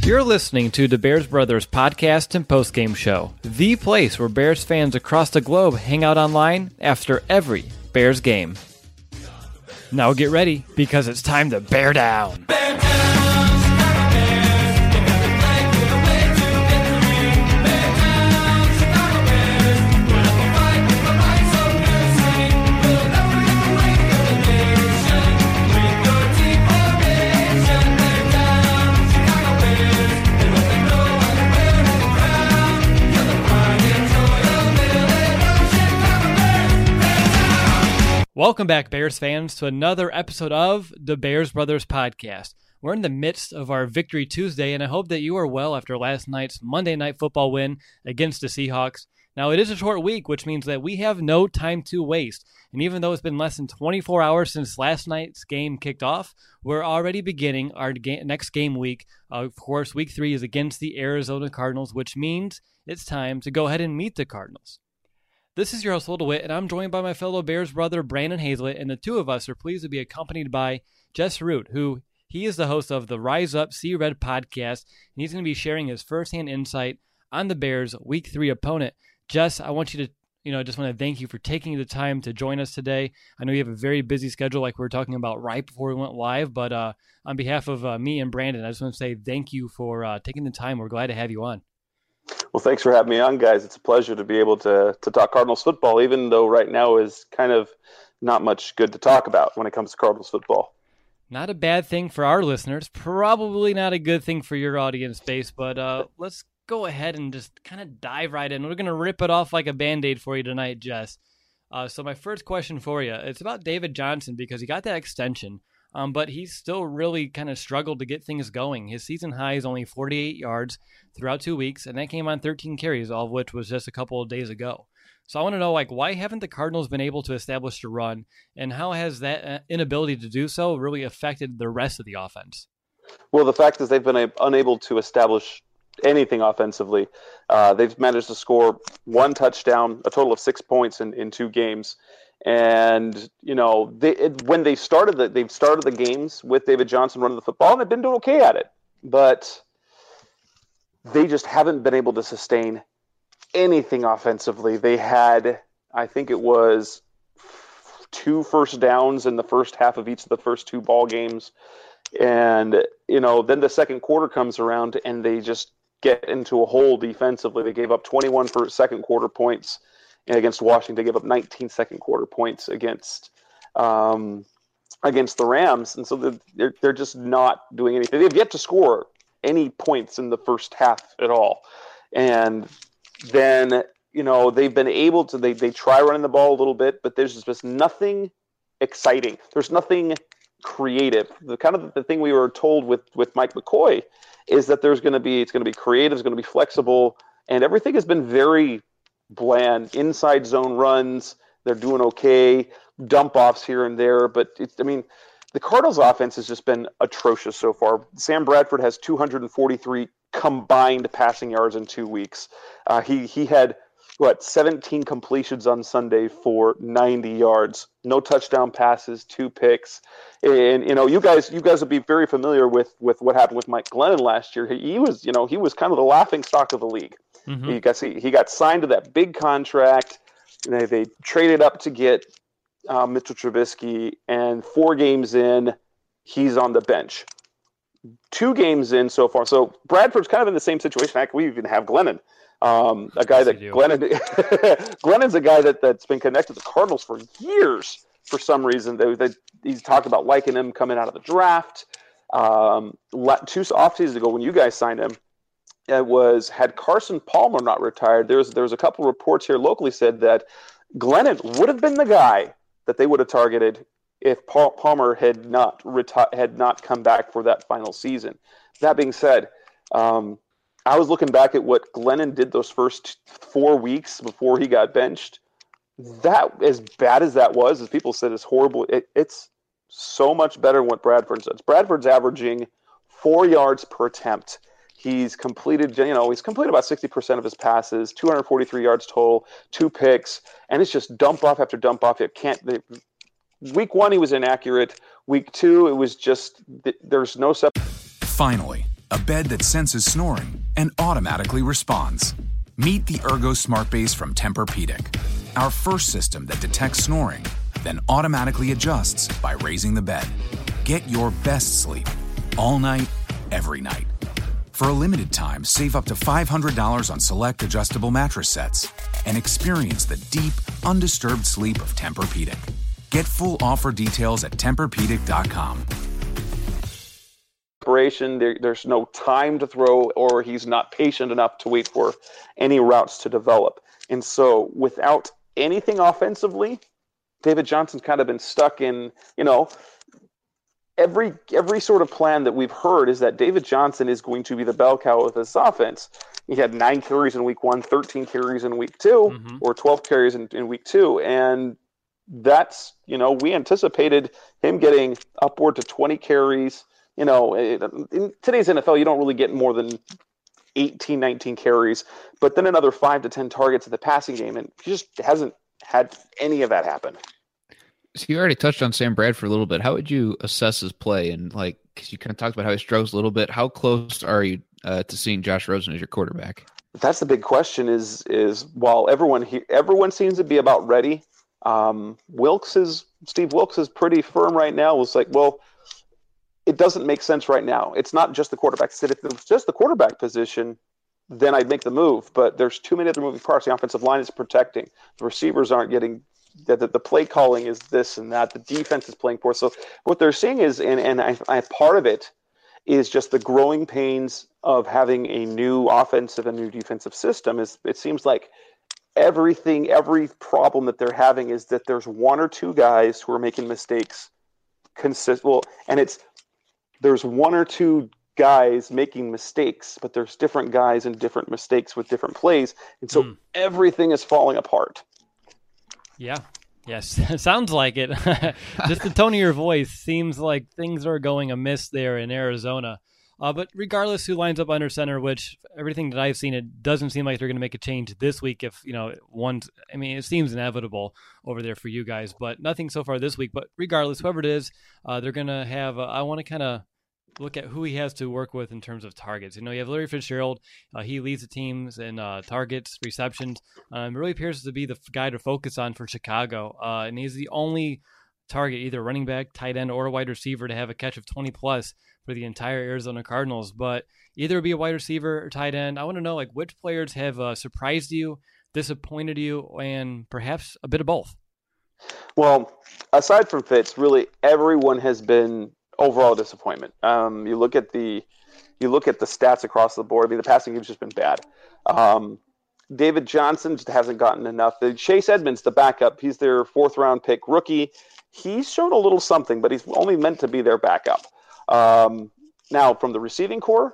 You're listening to the Bears Brothers podcast and postgame show, the place where Bears fans across the globe hang out online after every Bears game. Now get ready, because it's time to bear down. Bear down! Welcome back, Bears fans, to another episode of the Bears Brothers podcast. We're in the midst of our Victory Tuesday, and I hope that you are well after last night's Monday Night Football win against the Seahawks. Now, it is a short week, which means that we have no time to waste. And even though it's been less than 24 hours since last night's game kicked off, we're already beginning our next game week. Of course, week 3 is against the Arizona Cardinals, which means it's time to go ahead and meet the Cardinals. This is your host, Will DeWitt, and I'm joined by my fellow Bears brother, Brandon Hazlett, and the two of us are pleased to be accompanied by Jess Root, who he is the host of the Rise Up See Red podcast, and he's going to be sharing his firsthand insight on the Bears' Week 3 opponent. Jess, I want you to, just want to thank you for taking the time to join us today. I know you have a very busy schedule, like we were talking about right before we went live, but on behalf of me and Brandon, I just want to say thank you for taking the time. We're glad to have you on. Well, thanks for having me on, guys. It's a pleasure to be able to talk Cardinals football, even though right now is kind of not much good to talk about when it comes to Cardinals football. Not a bad thing for our listeners, probably not a good thing for your audience base, but let's go ahead and just kind of dive right in. We're going to rip it off like a Band-Aid for you tonight, Jess. So my first question for you, it's about David Johnson, because he got that extension. But he's still really kind of struggled to get things going. His season high is only 48 yards throughout 2 weeks, and that came on 13 carries, all of which was just a couple of days ago. So I want to know, why haven't the Cardinals been able to establish a run, and how has that inability to do so really affected the rest of the offense? Well, the fact is they've been unable to establish anything offensively. They've managed to score one touchdown, a total of 6 points in 2 games. And when they've started the games with David Johnson running the football, and they've been doing okay at it, but they just haven't been able to sustain anything offensively. They had, I think it was 2 first downs in the first half of each of the first 2 ball games, and then the second quarter comes around and they just get into a hole defensively. They gave up 21 for second quarter points against Washington. They gave up 19 second quarter points against the Rams, and so they're just not doing anything. They've yet to score any points in the first half at all, and then they've been able to they try running the ball a little bit, but there's just nothing exciting. There's nothing creative. The thing we were told with Mike McCoy is that it's going to be creative, it's going to be flexible, and everything has been very bland. Inside zone runs, they're doing okay. Dump offs here and there, but the Cardinals' offense has just been atrocious so far. Sam Bradford has 243 combined passing yards in 2 weeks. He had 17 completions on Sunday for 90 yards. No touchdown passes, 2 picks. And you guys would be very familiar with what happened with Mike Glennon last year. He was kind of the laughing stock of the league. Mm-hmm. He got signed to that big contract. They traded up to get Mitchell Trubisky, and 4 games in, he's on the bench. 2 games in so far. So Bradford's kind of in the same situation. Heck, we even have Glennon, a guy that Glennon's a guy that's been connected to the Cardinals for years. For some reason, he's talked about liking him coming out of the draft. 2 off seasons ago, when you guys signed him, had Carson Palmer not retired, there was a couple reports here locally said that Glennon would have been the guy that they would have targeted if Palmer had not come back for that final season. That being said, I was looking back at what Glennon did those first 4 weeks before he got benched. That, as bad as that was, as people said, is horrible. It's so much better than what Bradford does. Bradford's averaging 4 yards per attempt. He's completed about 60% of his passes, 243 yards total, 2 picks, and it's just dump off after dump off. Week 1, he was inaccurate. Week 2, it was just there's no. Finally, a bed that senses snoring and automatically responds. Meet the Ergo Smart Base from Tempur-Pedic, our first system that detects snoring, then automatically adjusts by raising the bed. Get your best sleep all night, every night. For a limited time, save up to $500 on select adjustable mattress sets and experience the deep, undisturbed sleep of Tempur-Pedic. Get full offer details at TempurPedic.com. There's no time to throw, or he's not patient enough to wait for any routes to develop. And so without anything offensively, David Johnson's kind of been stuck in, every sort of plan that we've heard is that David Johnson is going to be the bell cow of this offense. He had 9 carries in week 1, 13 carries in week 2, or 12 carries in week 2. And that's, we anticipated him getting upward to 20 carries. In today's NFL, you don't really get more than 18, 19 carries, but then another 5 to 10 targets in the passing game. And he just hasn't had any of that happen. So you already touched on Sam Bradford a little bit. How would you assess his play? And because you kind of talked about how he struggles a little bit, how close are you to seeing Josh Rosen as your quarterback? That's the big question is while everyone seems to be about ready, Steve Wilks is pretty firm right now. It's like, well, it doesn't make sense right now. It's not just the quarterback. If it was just the quarterback position, then I'd make the move. But there's too many other moving parts. The offensive line is protecting. The receivers aren't getting the play calling is this and that. The defense is playing poor. So what they're seeing is, and I part of it is just the growing pains of having a new offensive and new defensive system. It seems like every problem that they're having is that there's one or two guys who are making mistakes there's one or two guys making mistakes, but there's different guys and different mistakes with different plays. And so everything is falling apart. Yeah. Yes. It sounds like it. Just the tone of your voice seems like things are going amiss there in Arizona. But regardless who lines up under center, which everything that I've seen, it doesn't seem like they're going to make a change this week. If, it seems inevitable over there for you guys, but nothing so far this week. But regardless, whoever it is, they're going to have, I want to kind of look at who he has to work with in terms of targets. You have Larry Fitzgerald. He leads the teams in targets, receptions. Really appears to be the guy to focus on for Chicago. And he's the only target, either running back, tight end, or a wide receiver to have a catch of 20+ for the entire Arizona Cardinals. But either be a wide receiver or tight end. I want to know, which players have surprised you, disappointed you, and perhaps a bit of both. Well, aside from Fitz, really everyone has been overall disappointment. You look at the stats across the board. The passing game's just been bad. David Johnson just hasn't gotten enough. Chase Edmonds, the backup, he's their 4th-round pick rookie. He's shown a little something, but he's only meant to be their backup. Now, from the receiving core,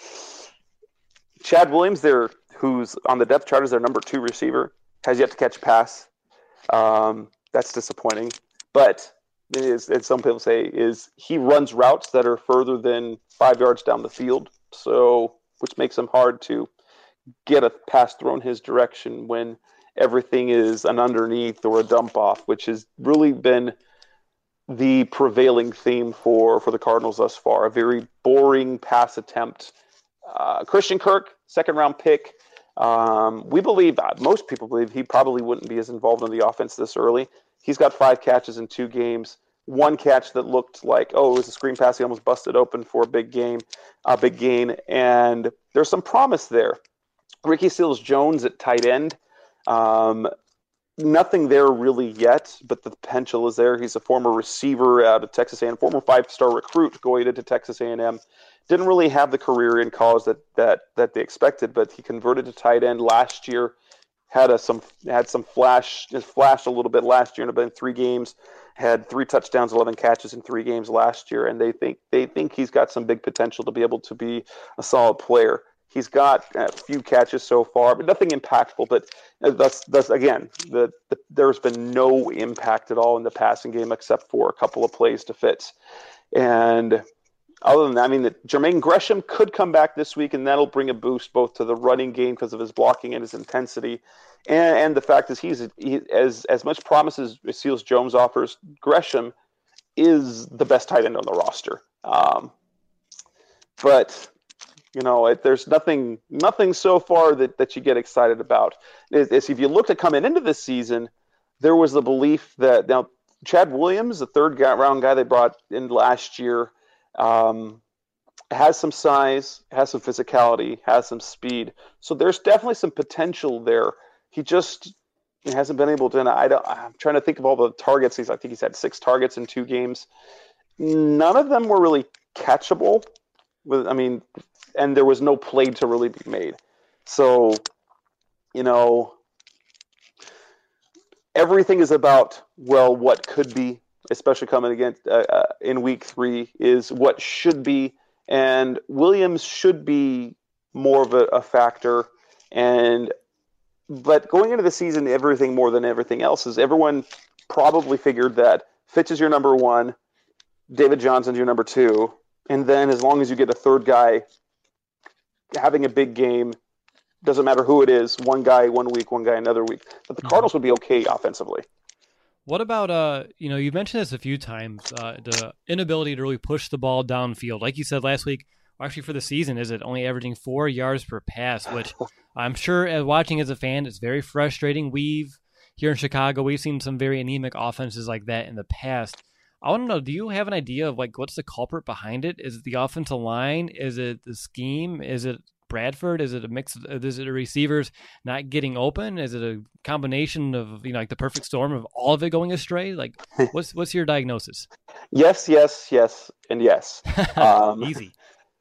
Chad Williams, who's on the depth chart as their number 2 receiver, has yet to catch a pass. That's disappointing. But as some people say, is he runs routes that are further than 5 yards down the field, which makes him hard to get a pass thrown his direction when everything is an underneath or a dump off, which has really been the prevailing theme for the Cardinals thus far. A very boring pass attempt. Christian Kirk, 2nd-round pick. We believe, most people believe, he probably wouldn't be as involved in the offense this early. He's got 5 catches in 2 games. 1 catch that looked like, it was a screen pass. He almost busted open for a big gain. And there's some promise there. Ricky Seals-Jones at tight end. Nothing there really yet, but the potential is there. He's a former receiver out of Texas A&M, former 5-star recruit going into Texas A&M. Didn't really have the career in college that they expected, but he converted to tight end last year. Had some flash, just flashed a little bit last year in about 3 games. Had 3 touchdowns, 11 catches in 3 games last year, and they think he's got some big potential to be able to be a solid player. He's got a few catches so far, but nothing impactful. But that's again, there's been no impact at all in the passing game except for a couple of plays to Fitz. And other than that, Jermaine Gresham could come back this week, and that'll bring a boost both to the running game because of his blocking and his intensity. And the fact is he as much promise as Seals-Jones offers, Gresham is the best tight end on the roster. But There's nothing so far that you get excited about. If you looked at coming into this season, there was the belief that now Chad Williams, the third-round guy they brought in last year, has some size, has some physicality, has some speed. So there's definitely some potential there. He hasn't been able to. And I'm trying to think of all the targets. I think he's had 6 targets in 2 games. None of them were really catchable. And there was no play to really be made. So, everything is about, what could be, especially coming against in week 3, is what should be. And Williams should be more of a factor. But going into the season, everything more than everything else is everyone probably figured that Fitz is your number 1, David Johnson's your number 2, and then as long as you get a third guy having a big game, doesn't matter who it is, one guy 1 week, one guy another week, that the Cardinals would be okay offensively. What about, you mentioned this a few times, the inability to really push the ball downfield. Like you said last week, or actually for the season, is it only averaging 4 yards per pass, which I'm sure watching as a fan, it's very frustrating. Here in Chicago, we've seen some very anemic offenses like that in the past. I want to know, do you have an idea of what's the culprit behind it? Is it the offensive line? Is it the scheme? Is it Bradford? Is it a mix? Is it the receivers not getting open? Is it a combination of the perfect storm of all of it going astray? What's your diagnosis? Yes, and yes. Easy.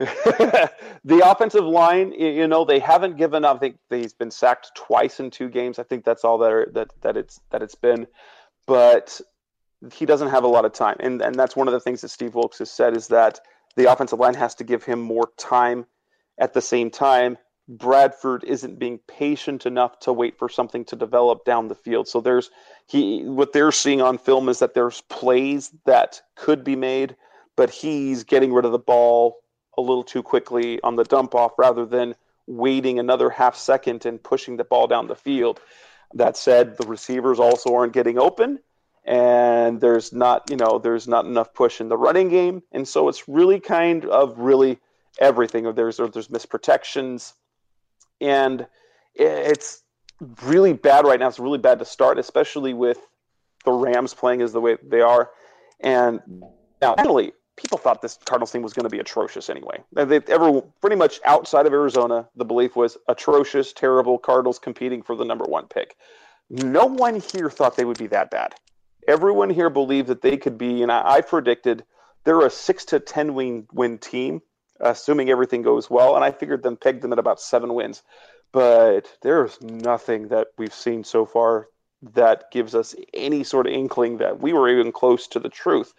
The offensive line, they haven't given up. I think he's been sacked twice in 2 games. I think that's all that it's been, but he doesn't have a lot of time, and that's one of the things that Steve Wilkes has said is that the offensive line has to give him more time. At the same time, Bradford isn't being patient enough to wait for something to develop down the field. So what they're seeing on film is that there's plays that could be made, but he's getting rid of the ball a little too quickly on the dump off rather than waiting another half second and pushing the ball down the field. That said, the receivers also aren't getting open, and there's not enough push in the running game. And so it's really kind of everything. There's misprotections, and it's really bad right now. It's really bad to start, especially with the Rams playing as the way they are. And now, actually, people thought this Cardinals team was going to be atrocious anyway. Pretty much outside of Arizona, the belief was atrocious, terrible, Cardinals competing for the number 1 pick. No one here thought they would be that bad. Everyone here believed that they could be, and I predicted they're a 6 to 10 win team, assuming everything goes well, and I figured pegged them at about 7 wins. But there's nothing that we've seen so far that gives us any sort of inkling that we were even close to the truth.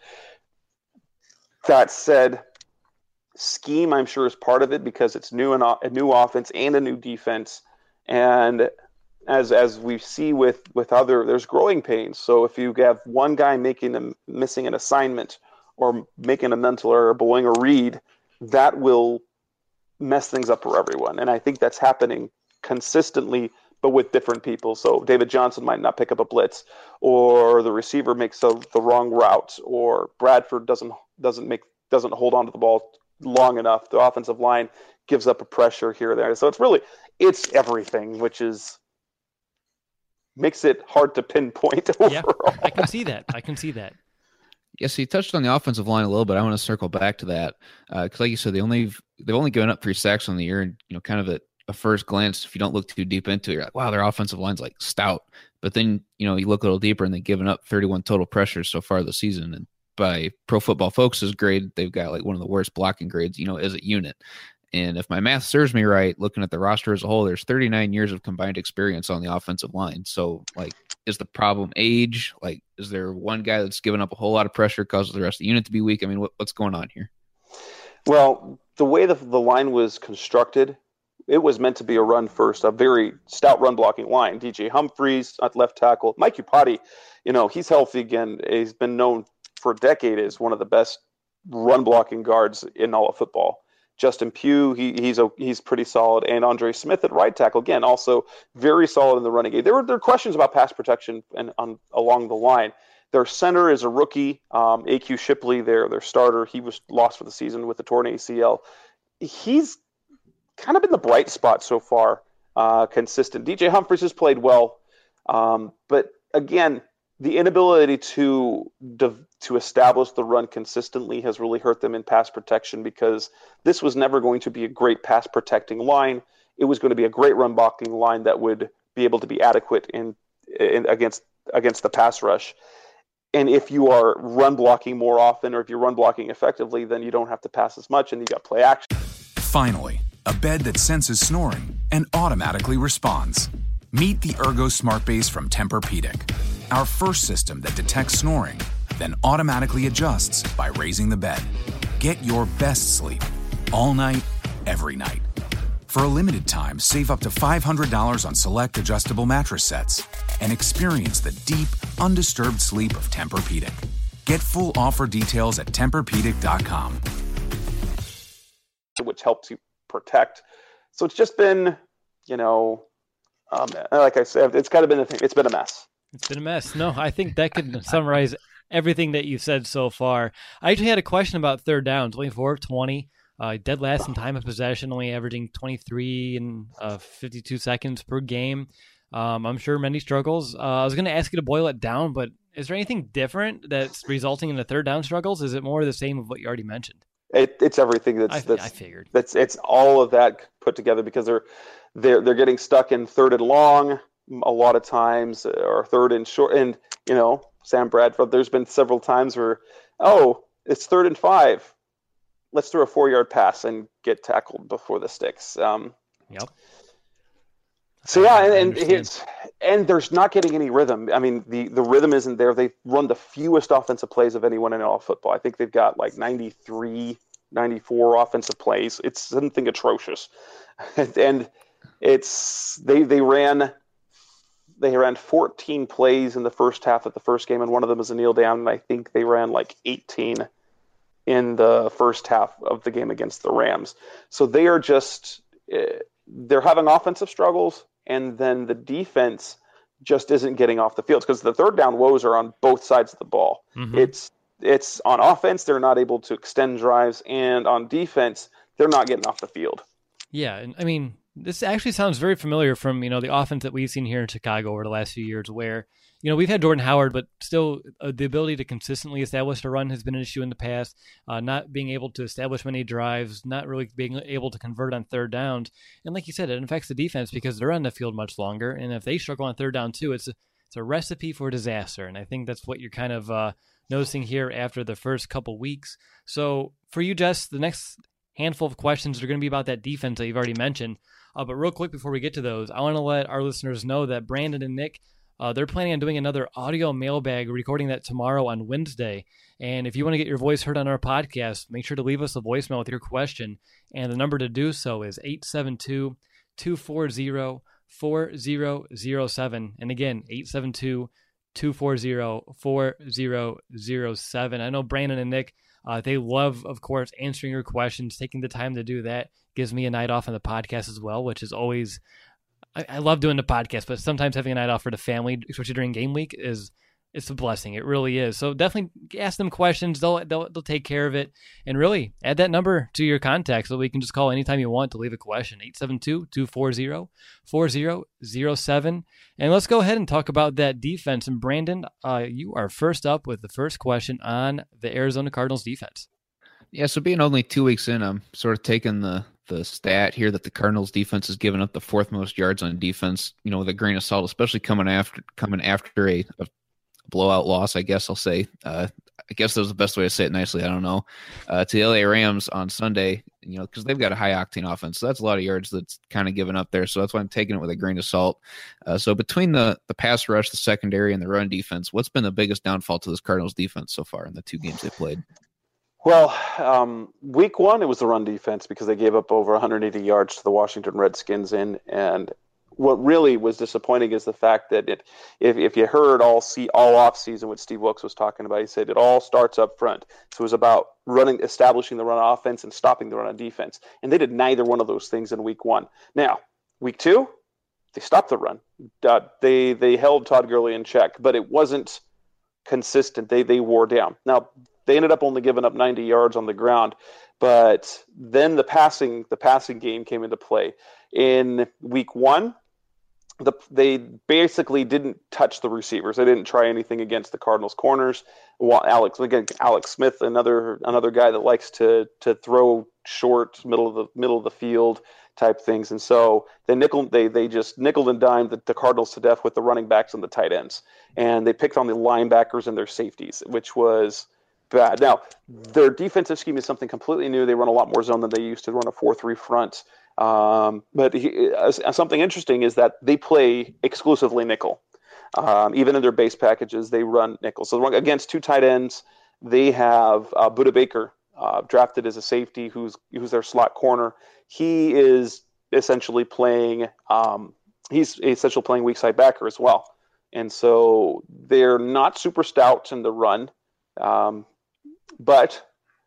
That said, scheme I'm sure is part of it because it's a new offense and a new defense, and as we see with other, there's growing pains. So if you have one guy missing an assignment or making a mental error, blowing a read, that will mess things up for everyone. And I think that's happening consistently, but with different people. So David Johnson might not pick up a blitz, or the receiver makes the wrong route, or Bradford doesn't hold on to the ball long enough. The offensive line gives up a pressure here or there. So it's everything, which makes it hard to pinpoint overall. Yeah, I can see that. Yes, you touched on the offensive line a little bit. I want to circle back to that because, like you said, they've only given up 3 sacks on the year, and kind of at a first glance, if you don't look too deep into it, you're like, wow, their offensive line's stout. But then you look a little deeper, and they've given up 31 total pressures so far this season. And by Pro Football Focus's grade, they've got one of the worst blocking grades, as a unit. And if my math serves me right, looking at the roster as a whole, there's 39 years of combined experience on the offensive line. So, is the problem age? Is there one guy that's given up a whole lot of pressure, causes the rest of the unit to be weak? I mean, what's going on here? Well, the way the line was constructed, it was meant to be a run first, a very stout run blocking line. DJ Humphries at left tackle. Mike Iupati, he's healthy again. He's been known for a decade as one of the best run blocking guards in all of football. Justin Pugh, he's pretty solid, and Andre Smith at right tackle, again, also very solid in the running game. There were questions about pass protection along the line. Their center is a rookie, A.Q. Shipley, their starter. He was lost for the season with the torn ACL. He's kind of been the bright spot so far, consistent. DJ Humphries has played well, but again, the inability to establish the run consistently has really hurt them in pass protection, because this was never going to be a great pass protecting line. It was going to be a great run blocking line that would be able to be adequate in against the pass rush. And if you are run blocking more often, or if you're run blocking effectively, then you don't have to pass as much, and you got play action. Finally, a bed that senses snoring and automatically responds. Meet the Ergo Smart Base from Tempur-Pedic, our first system that detects snoring, then automatically adjusts by raising the bed. Get your best sleep all night, every night. For a limited time, save up to $500 on select adjustable mattress sets and experience the deep, undisturbed sleep of Tempur-Pedic. Get full offer details at TempurPedic.com. Which helps you protect. So it's just been, like I said, it's kind of been a thing. It's been a mess. It's been a mess. No, I think that could summarize everything that you've said so far. I actually had a question about third downs. 24 of 20. Dead last in time of possession, only averaging 23 and 52 seconds per game. I'm sure many struggles. I was going to ask you to boil it down, but is there anything different that's resulting in the third down struggles? Is it more the same of what you already mentioned? It's everything. I figured. It's all of that put together, because they're getting stuck in third and long a lot of times, or third and short. And Sam Bradford, there's been several times where, it's 3rd and 5. Let's throw a 4-yard pass and get tackled before the sticks. Yep. So yeah, and there's not getting any rhythm. I mean, the rhythm isn't there. They run the fewest offensive plays of anyone in all football. I think they've got like 93, 94 offensive plays. It's something atrocious. And they ran 14 plays in the first half of the first game, and one of them was a kneel down, and I think they ran like 18 in the first half of the game against the Rams. So they are they're having offensive struggles, and then the defense just isn't getting off the field, because the third down woes are on both sides of the ball. Mm-hmm. It's on offense, they're not able to extend drives, and on defense, they're not getting off the field. Yeah, and I mean, this actually sounds very familiar from, the offense that we've seen here in Chicago over the last few years, where, we've had Jordan Howard, but still the ability to consistently establish a run has been an issue in the past. Not being able to establish many drives, not really being able to convert on third downs. And like you said, it affects the defense because they're on the field much longer. And if they struggle on third down too, it's a recipe for disaster. And I think that's what you're kind of noticing here after the first couple weeks. So for you, Jess, the next handful of questions are going to be about that defense that you've already mentioned. But real quick before we get to those, I want to let our listeners know that Brandon and Nick, they're planning on doing another audio mailbag, recording that tomorrow on Wednesday. And if you want to get your voice heard on our podcast, make sure to leave us a voicemail with your question. And the number to do so is 872-240-4007. And again, 872-240-4007. I know Brandon and Nick, they love, of course, answering your questions, taking the time to do that. Gives me a night off on the podcast as well, which is always, I love doing the podcast, but sometimes having a night off for the family, especially during game week, it's a blessing. It really is. So definitely ask them questions. They'll take care of it. And really add that number to your contact so we can just call anytime you want to leave a question. 872-240-4007. And let's go ahead and talk about that defense. And Brandon, you are first up with the first question on the Arizona Cardinals defense. Yeah, so being only 2 weeks in, I'm sort of taking the stat here that the Cardinals defense has given up the 4th most yards on defense, with a grain of salt, especially coming after a blowout loss, I guess I'll say. I guess that was the best way to say it nicely. I don't know. To the LA Rams on Sunday, because they've got a high octane offense. So that's a lot of yards that's kind of given up there. So that's why I'm taking it with a grain of salt. So between the pass rush, the secondary, and the run defense, what's been the biggest downfall to this Cardinals defense so far in the 2 games they played? Well, week 1, it was the run defense, because they gave up over 180 yards to the Washington Redskins. And what really was disappointing is the fact that if you heard all off season what Steve Wilkes was talking about, he said it all starts up front. So it was about establishing the run offense and stopping the run on defense. And they did neither one of those things in week 1. Now, week 2, they stopped the run. They held Todd Gurley in check, but it wasn't consistent. They wore down. Now, they ended up only giving up 90 yards on the ground, But then the passing game came into play. In week 1, they basically didn't touch the receivers. They didn't try anything against the Cardinals corners. Alex Smith, another guy that likes to throw short, middle of the field type things. And so they just nickel and dimed the Cardinals to death with the running backs and the tight ends. And they picked on the linebackers and their safeties, which was bad. Now, their defensive scheme is something completely new. They run a lot more zone than they used to run a 4-3 front. But something interesting is that they play exclusively nickel. Even in their base packages, they run nickel. So against 2 tight ends, they have Budda Baker, drafted as a safety, who's their slot corner. He is essentially playing. Playing weak side backer as well, and so they're not super stout in the run. But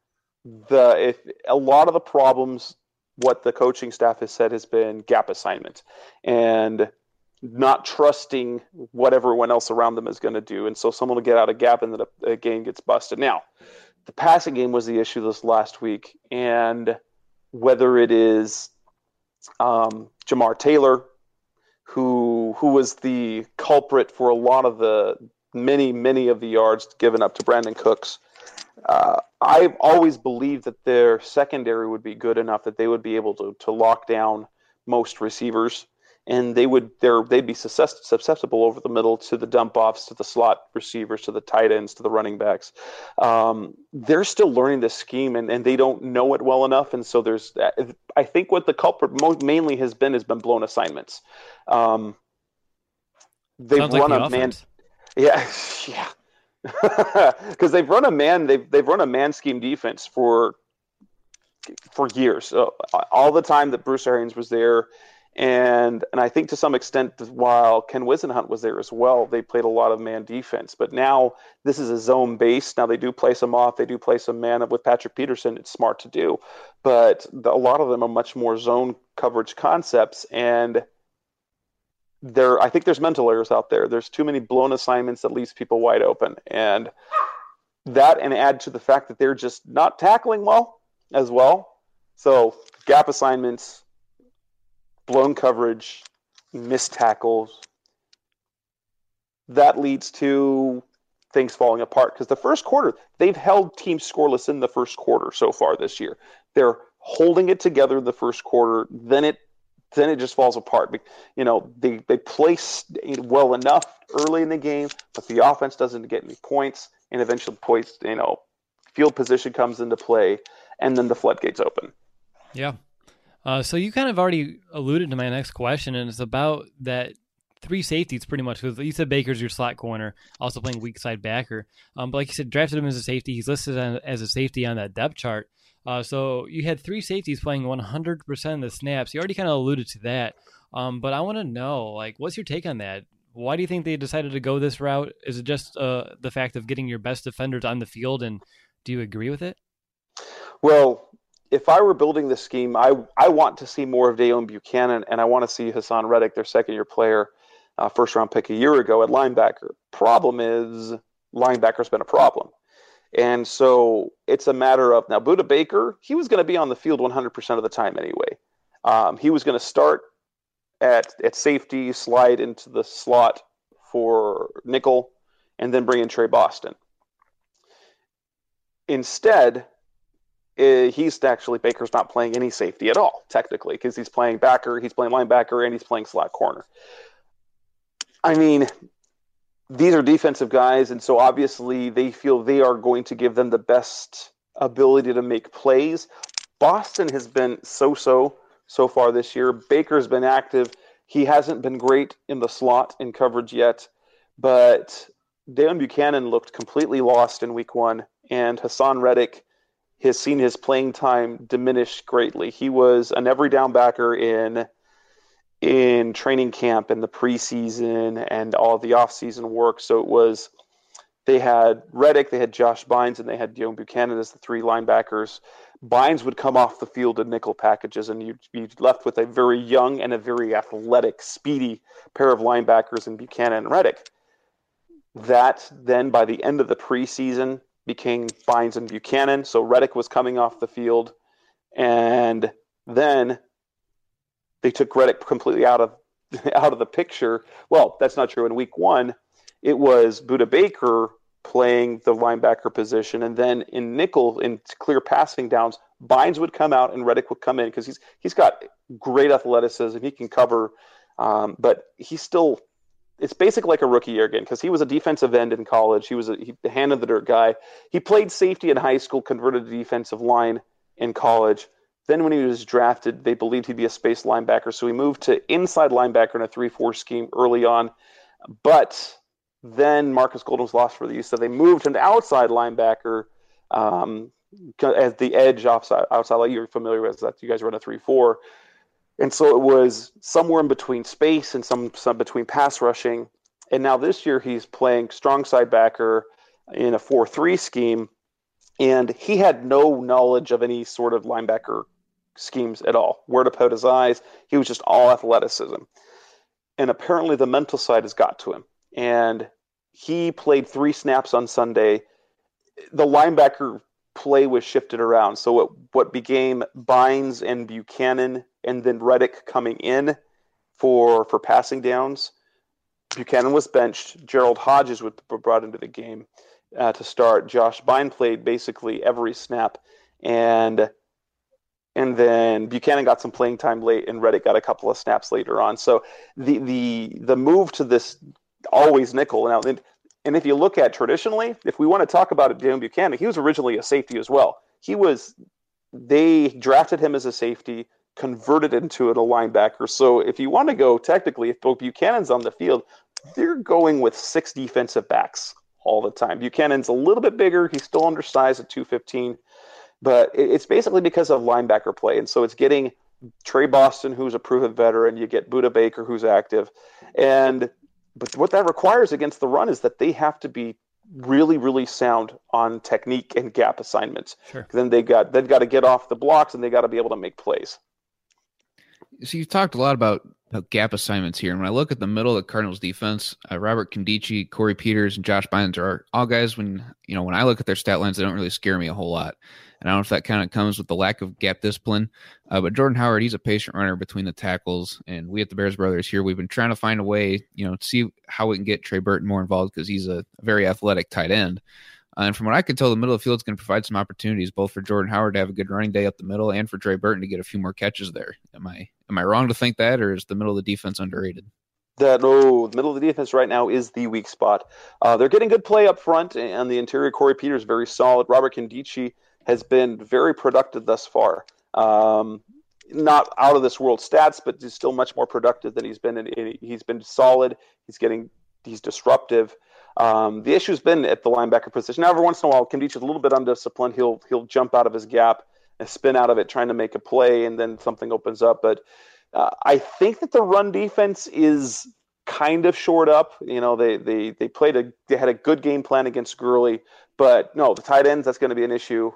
a lot of the problems, what the coaching staff has said, has been gap assignment and not trusting what everyone else around them is going to do. And so someone will get out of gap and the game gets busted. Now, the passing game was the issue this last week. And whether it is Jamar Taylor, who was the culprit for a lot of the many of the yards given up to Brandon Cooks, I've always believed that their secondary would be good enough that they would be able to lock down most receivers, and they'd be susceptible over the middle to the dump offs, to the slot receivers, to the tight ends, to the running backs. They're still learning this scheme, and they don't know it well enough. And so I think what the culprit mainly has been blown assignments. They've run a man. Yeah. Because they've run a man scheme defense for years, all the time that Bruce Arians was there, and I think to some extent while Ken Wisenhunt was there as well, they played a lot of man defense. But now this is a zone base. Now they do play some off, they do play some man with Patrick Peterson. It's smart to do, but a lot of them are much more zone coverage concepts, and I think there's mental errors out there. There's too many blown assignments that leaves people wide open. And add to the fact that they're just not tackling well as well. So gap assignments, blown coverage, missed tackles. That leads to things falling apart. Because the first quarter, they've held teams scoreless in the first quarter so far this year. They're holding it together in the first quarter. Then it just falls apart. They play well enough early in the game, but the offense doesn't get any points, and eventually field position comes into play, and then the floodgates open. Yeah. So you kind of already alluded to my next question, and it's about that 3 safeties pretty much. Because you said Baker's your slot corner, also playing weak side backer. But like you said, drafted him as a safety. He's listed as a safety on that depth chart. So you had 3 safeties playing 100% of the snaps. You already kind of alluded to that. But I want to know, what's your take on that? Why do you think they decided to go this route? Is it just the fact of getting your best defenders on the field, and do you agree with it? Well, if I were building this scheme, I want to see more of Deone Bucannon, and I want to see Hassan Reddick, their second-year player, first-round pick a year ago at linebacker. Problem is, linebacker's been a problem. And so it's a matter of, now Budda Baker, he was going to be on the field 100% of the time anyway. He was going to start at safety, slide into the slot for nickel, and then bring in Trey Boston. Instead, Baker's not playing any safety at all, technically, because he's playing backer, he's playing linebacker, and he's playing slot corner. I mean, these are defensive guys, and so obviously they feel they are going to give them the best ability to make plays. Boston has been so far this year. Baker's been active. He hasn't been great in the slot in coverage yet, but Deone Bucannon looked completely lost in week 1, and Hassan Reddick has seen his playing time diminish greatly. He was an every down backer in training camp and the preseason and all the off-season work. So they had Reddick, they had Josh Bynes, and they had Deone Bucannon as the 3 linebackers. Bynes would come off the field in nickel packages, and you'd be left with a very young and a very athletic, speedy pair of linebackers in Bucannon and Reddick. That then, by the end of the preseason, became Bynes and Bucannon. So Reddick was coming off the field And then they took Reddick completely out of the picture. Well, that's not true. In week 1, it was Budda Baker playing the linebacker position, and then in nickel, in clear passing downs, Bynes would come out and Reddick would come in because he's got great athleticism. He can cover, but he's still. It's basically like a rookie year again because he was a defensive end in college. He was the hand of the dirt guy. He played safety in high school, converted to defensive line in college. Then when he was drafted, they believed he'd be a space linebacker, so he moved to inside linebacker in a 3-4 scheme early on. But then Marcus Golden was lost for the use, so they moved him to outside linebacker as the edge outside. Like you're familiar with that. You guys run a 3-4. And so it was somewhere in between space and some between pass rushing. And now this year he's playing strong side backer in a 4-3 scheme. And he had no knowledge of any sort of linebacker schemes at all, where to put his eyes. He was just all athleticism. And apparently the mental side has got to him. And he played 3 snaps on Sunday. The linebacker play was shifted around. So what became Bynes and Buchanan and then Reddick coming in for passing downs. Buchanan was benched. Gerald Hodges was brought into the game to start. Josh Bynes played basically every snap, and then Buchanan got some playing time late, and Reddick got a couple of snaps later on. So the move to this always nickel now. And if you look at traditionally, if we want to talk about it, Dan Buchanan, he was originally a safety as well. They drafted him as a safety, converted into a linebacker. So if you want to go technically, if Buchanan's on the field, they're going with 6 defensive backs all the time. Buchanan's a little bit bigger. He's still undersized at 215, but it's basically because of linebacker play. And so it's getting Trey Boston, who's a proven veteran. You get Budda Baker, who's active. But what that requires against the run is that they have to be really, really sound on technique and gap assignments. Sure. Then they've got to get off the blocks and they got to be able to make plays. So you've talked a lot about gap assignments here. And when I look at the middle of the Cardinals defense, Robert Nkemdiche, Corey Peters, and Josh Bynes are all guys when I look at their stat lines, they don't really scare me a whole lot. And I don't know if that kind of comes with the lack of gap discipline. But Jordan Howard, he's a patient runner between the tackles. And we at the Bears Brothers here, we've been trying to find a way, to see how we can get Trey Burton more involved because he's a very athletic tight end. And from what I can tell, the middle of the field is going to provide some opportunities, both for Jordan Howard to have a good running day up the middle and for Trey Burton to get a few more catches there. Am I wrong to think that, or is the middle of the defense underrated? The middle of the defense right now is the weak spot. They're getting good play up front, and the interior, Corey Peters, very solid. Robert Nkemdiche has been very productive thus far. Not out of this world stats, but he's still much more productive than he's been. He's been solid. He's disruptive. The issue's been at the linebacker position. Now, every once in a while, Nkemdiche is a little bit undisciplined. He'll jump out of his gap and spin out of it trying to make a play, and then something opens up. But I think that the run defense is kind of shored up. They had a good game plan against Gurley, but no, the tight ends, that's going to be an issue.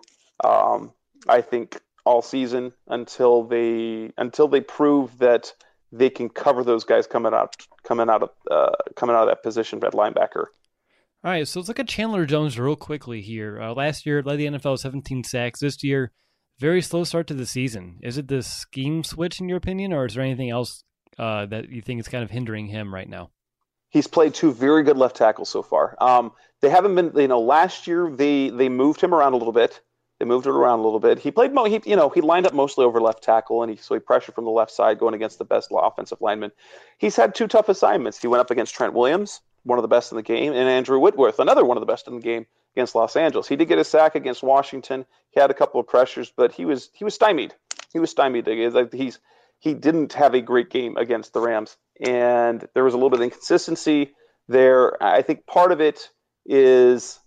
I think all season until they prove that they can cover those guys coming out of that position at linebacker. All right, so let's look at Chandler Jones real quickly here. Last year, led the NFL with 17 sacks. This year, very slow start to the season. Is it the scheme switch, in your opinion, or is there anything else that you think is kind of hindering him right now? He's played 2 very good left tackles so far. They haven't been, last year they moved him around a little bit. He played, he lined up mostly over left tackle, and he pressured from the left side going against the best offensive lineman. He's had 2 tough assignments. He went up against Trent Williams, one of the best in the game, and Andrew Whitworth, another one of the best in the game against Los Angeles. He did get a sack against Washington. He had a couple of pressures, but he was stymied. He was stymied. He didn't have a great game against the Rams, and there was a little bit of inconsistency there. I think part of it is,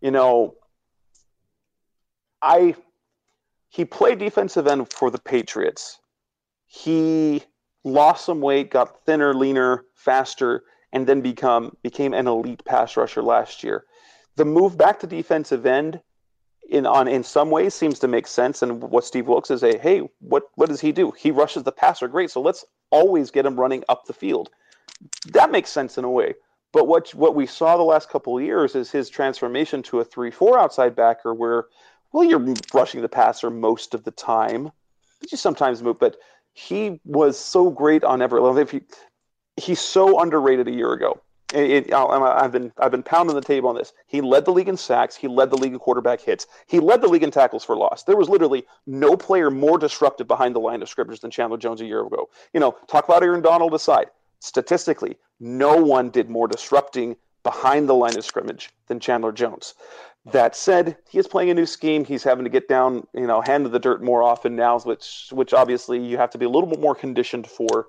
he played defensive end for the Patriots. He lost some weight, got thinner, leaner, faster, and then became an elite pass rusher last year. The move back to defensive end in some ways seems to make sense. And what Steve Wilks is hey, what does he do? He rushes the passer. Great. So let's always get him running up the field. That makes sense in a way. But what we saw the last couple of years is his transformation to a 3-4 outside backer where, you're rushing the passer most of the time, just sometimes move, but he was so great on every level. He's so underrated a year ago. I've been pounding the table on this. He led the league in sacks. He led the league in quarterback hits. He led the league in tackles for loss. There was literally no player more disruptive behind the line of scrimmage than Chandler Jones a year ago. Talk about Aaron Donald aside. Statistically, no one did more disrupting behind the line of scrimmage than Chandler Jones. That said, he is playing a new scheme. He's having to get down, hand to the dirt more often now, which obviously you have to be a little bit more conditioned for.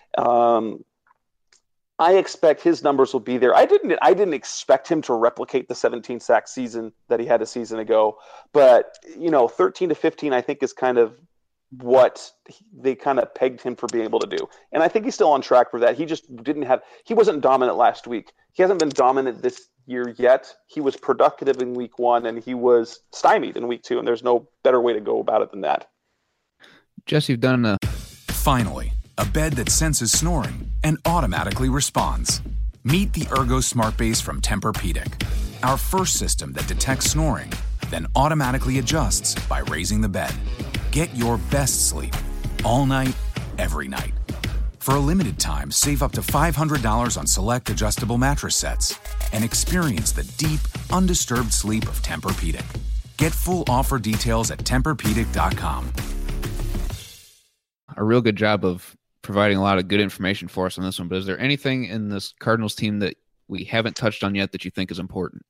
I expect his numbers will be there. I didn't expect him to replicate the 17 sack season that he had a season ago, but 13 to 15 I think is kind of what they kind of pegged him for being able to do. And I think he's still on track for that. He wasn't dominant last week. He hasn't been dominant this year yet. He was productive in week 1 and he was stymied in week 2, and there's no better way to go about it than that. Jesse, you've done Finally, a bed that senses snoring and automatically responds. Meet the Ergo Smart Base from Tempur-Pedic, our first system that detects snoring, then automatically adjusts by raising the bed. Get your best sleep all night, every night. For a limited time, save up to $500 on select adjustable mattress sets and experience the deep, undisturbed sleep of Tempur-Pedic. Get full offer details at TempurPedic.com. a real good job of providing a lot of good information for us on this one, but is there anything in this Cardinals team that we haven't touched on yet that you think is important?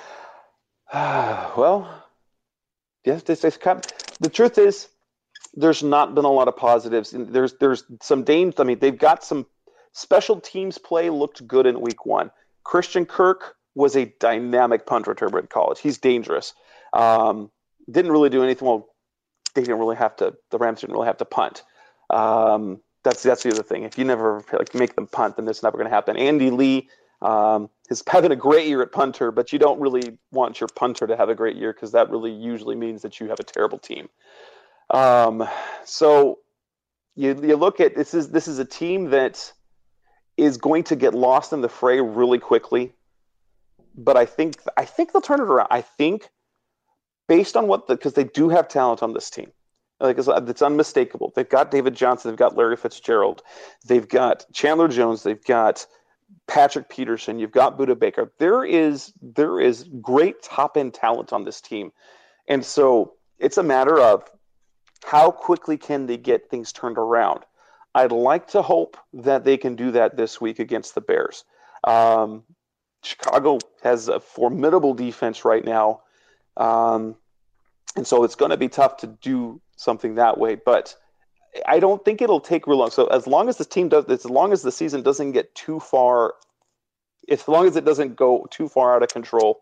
Well, yes, the truth is there's not been a lot of positives. There's some dangers. I mean, they've got some special teams play looked good in week 1. Christian Kirk was a dynamic punt returner in college. He's dangerous. Didn't really do anything. Well, they didn't really have to. The Rams didn't really have to punt. That's the other thing. If you never make them punt, then it's never going to happen. Andy Lee is having a great year at punter, but you don't really want your punter to have a great year because that really usually means that you have a terrible team. So you look at this is a team that is going to get lost in the fray really quickly, but I think they'll turn it around. I think based on because they do have talent on this team. It's unmistakable. They've got David Johnson. They've got Larry Fitzgerald. They've got Chandler Jones. They've got Patrick Peterson. You've got Budda Baker. There is great top-end talent on this team. And so it's a matter of how quickly can they get things turned around. I'd like to hope that they can do that this week against the Bears. Chicago has a formidable defense right now. And so it's going to be tough to do something that way, but I don't think it'll take real long. So as long as the season doesn't get too far, as long as it doesn't go too far out of control,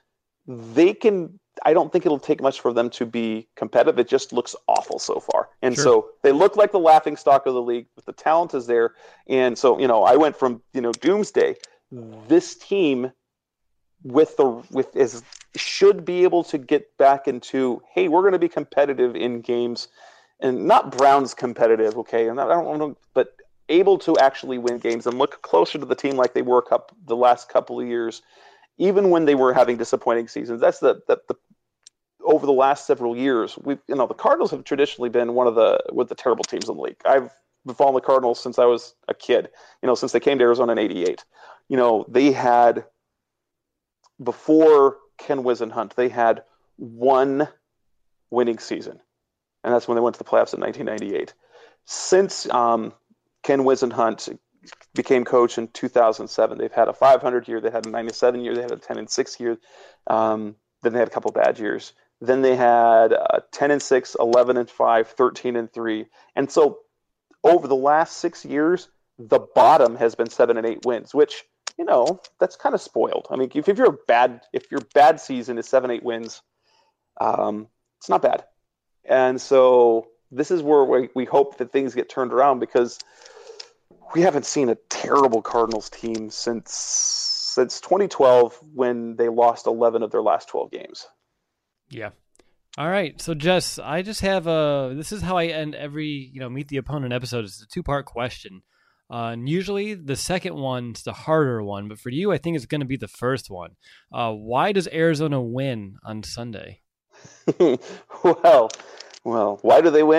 I don't think it'll take much for them to be competitive. It just looks awful so far. And Sure. So they look like the laughing stock of the league, but the talent is there. And so, I went from, doomsday. This team should be able to get back into, hey, we're going to be competitive in games, and not Browns competitive, okay? And I don't know, but able to actually win games and look closer to the team like they were the last couple of years, even when they were having disappointing seasons. That's the over the last several years, the Cardinals have traditionally been one of the terrible teams in the league. I've been following the Cardinals since I was a kid, since they came to Arizona in '88. They had, before Ken Whisenhunt, they had one winning season, and that's when they went to the playoffs in 1998. Since Ken Whisenhunt became coach in 2007, they've had a 500 year, they had a 97 year, they had a 10-6 year, then they had a couple bad years. Then they had 10-6, 11-5, 13-3, and so over the last 6 years, the bottom has been 7-8 wins, which that's kind of spoiled. I mean, if your bad season is 7-8 wins, it's not bad. And so this is where we hope that things get turned around, because we haven't seen a terrible Cardinals team since 2012, when they lost 11 of their last 12 games. Yeah. All right. So, Jess, I just have this is how I end every, Meet the Opponent episode. It's a 2-part question. And usually the second one's the harder one, but for you, I think it's going to be the first one. Why does Arizona win on Sunday? Well, why do they win?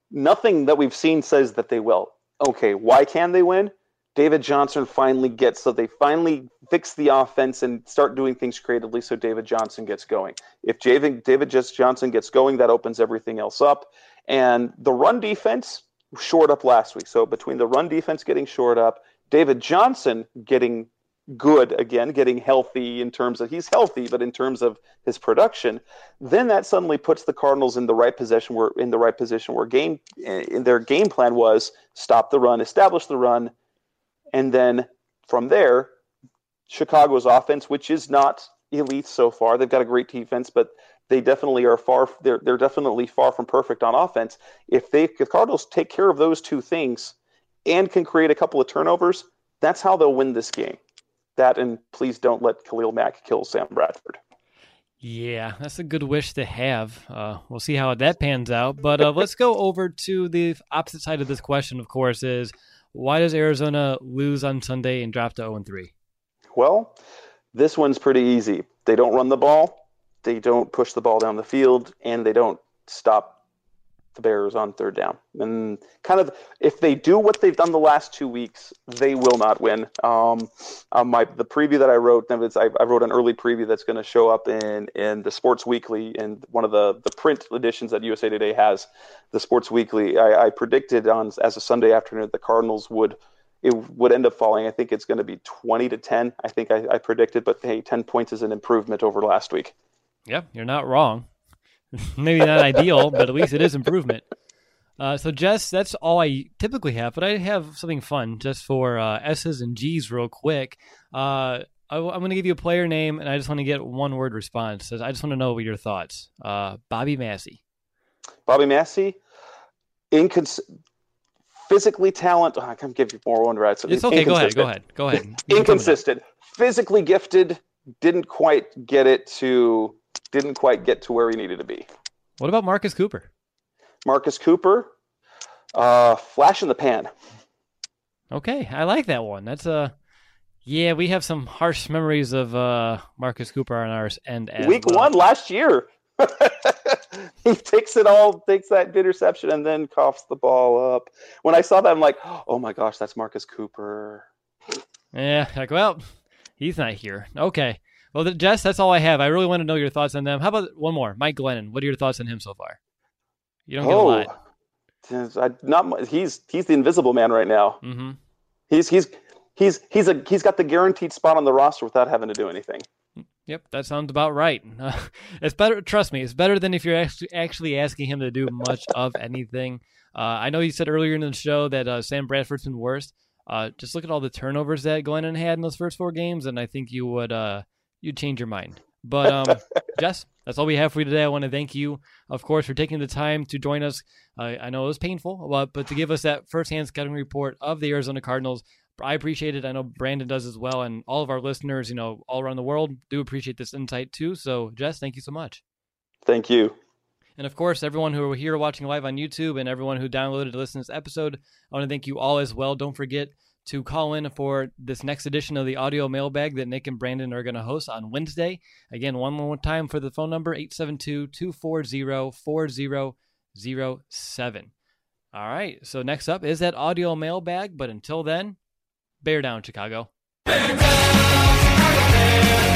nothing that we've seen says that they will. Okay, why can they win? David Johnson finally they finally fix the offense and start doing things creatively so David Johnson gets going. If David Johnson gets going, that opens everything else up. And the run defense shored up last week. So between the run defense getting shored up, David Johnson getting good again, getting healthy in terms of he's healthy, but in terms of his production, then that suddenly puts the Cardinals in the right position where their game plan was stop the run, establish the run, and then from there, Chicago's offense, which is not elite so far, they've got a great defense, but they definitely are they're definitely far from perfect on offense. If the Cardinals take care of those two things and can create a couple of turnovers, that's how they'll win this game. That, and please don't let Khalil Mack kill Sam Bradford. Yeah, that's a good wish to have. We'll see how that pans out. But let's go over to the opposite side of this question, of course, is why does Arizona lose on Sunday and drop to 0-3? Well, this one's pretty easy. They don't run the ball, they don't push the ball down the field, and they don't stop the Bears on third down. And kind of, if they do what they've done the last 2 weeks, they will not win. The preview that I wrote, I wrote an early preview that's going to show up in the Sports Weekly, and one of the print editions that USA Today has, the Sports Weekly. I predicted as a Sunday afternoon the Cardinals would end up falling. I think it's going to be 20-10. I think I predicted, but hey, 10 points is an improvement over last week. Yeah, you're not wrong. Maybe not ideal, but at least it is improvement. So, Jess, that's all I typically have, but I have something fun just for S's and G's real quick. I'm going to give you a player name, and I just want to get one-word response. I just want to know your thoughts. Bobby Massey. Bobby Massey, physically talented. I can give you more one right. It's okay. Go ahead. Inconsistent. Physically gifted. Didn't quite get to where he needed to be. What about Marcus Cooper? Marcus Cooper, flash in the pan. Okay, I like that one. That's yeah, we have some harsh memories of Marcus Cooper on our end. Week 1 last year. He takes that interception and then coughs the ball up. When I saw that, I'm like, oh my gosh, that's Marcus Cooper. Yeah, well, he's not here. Okay. Well, Jess, that's all I have. I really want to know your thoughts on them. How about one more? Mike Glennon. What are your thoughts on him so far? You don't get a lot. He's the invisible man right now. Mm-hmm. He's got the guaranteed spot on the roster without having to do anything. Yep, that sounds about right. It's better. Trust me, it's better than if you're actually asking him to do much of anything. I know you said earlier in the show that Sam Bradford's been worse. Just look at all the turnovers that Glennon had in those first 4 games, and I think you would you'd change your mind. But Jess, that's all we have for you today. I want to thank you, of course, for taking the time to join us. I know it was painful, but to give us that firsthand scouting report of the Arizona Cardinals, I appreciate it. I know Brandon does as well, and all of our listeners, all around the world do appreciate this insight too. So, Jess, thank you so much. Thank you. And of course, everyone who are here watching live on YouTube and everyone who downloaded to listen to this episode, I want to thank you all as well. Don't forget to call in for this next edition of the audio mailbag that Nick and Brandon are going to host on Wednesday. Again, one more time for the phone number, 872-240-4007. All right, so next up is that audio mailbag, but until then, bear down, Chicago. Bear down, Chicago Bears.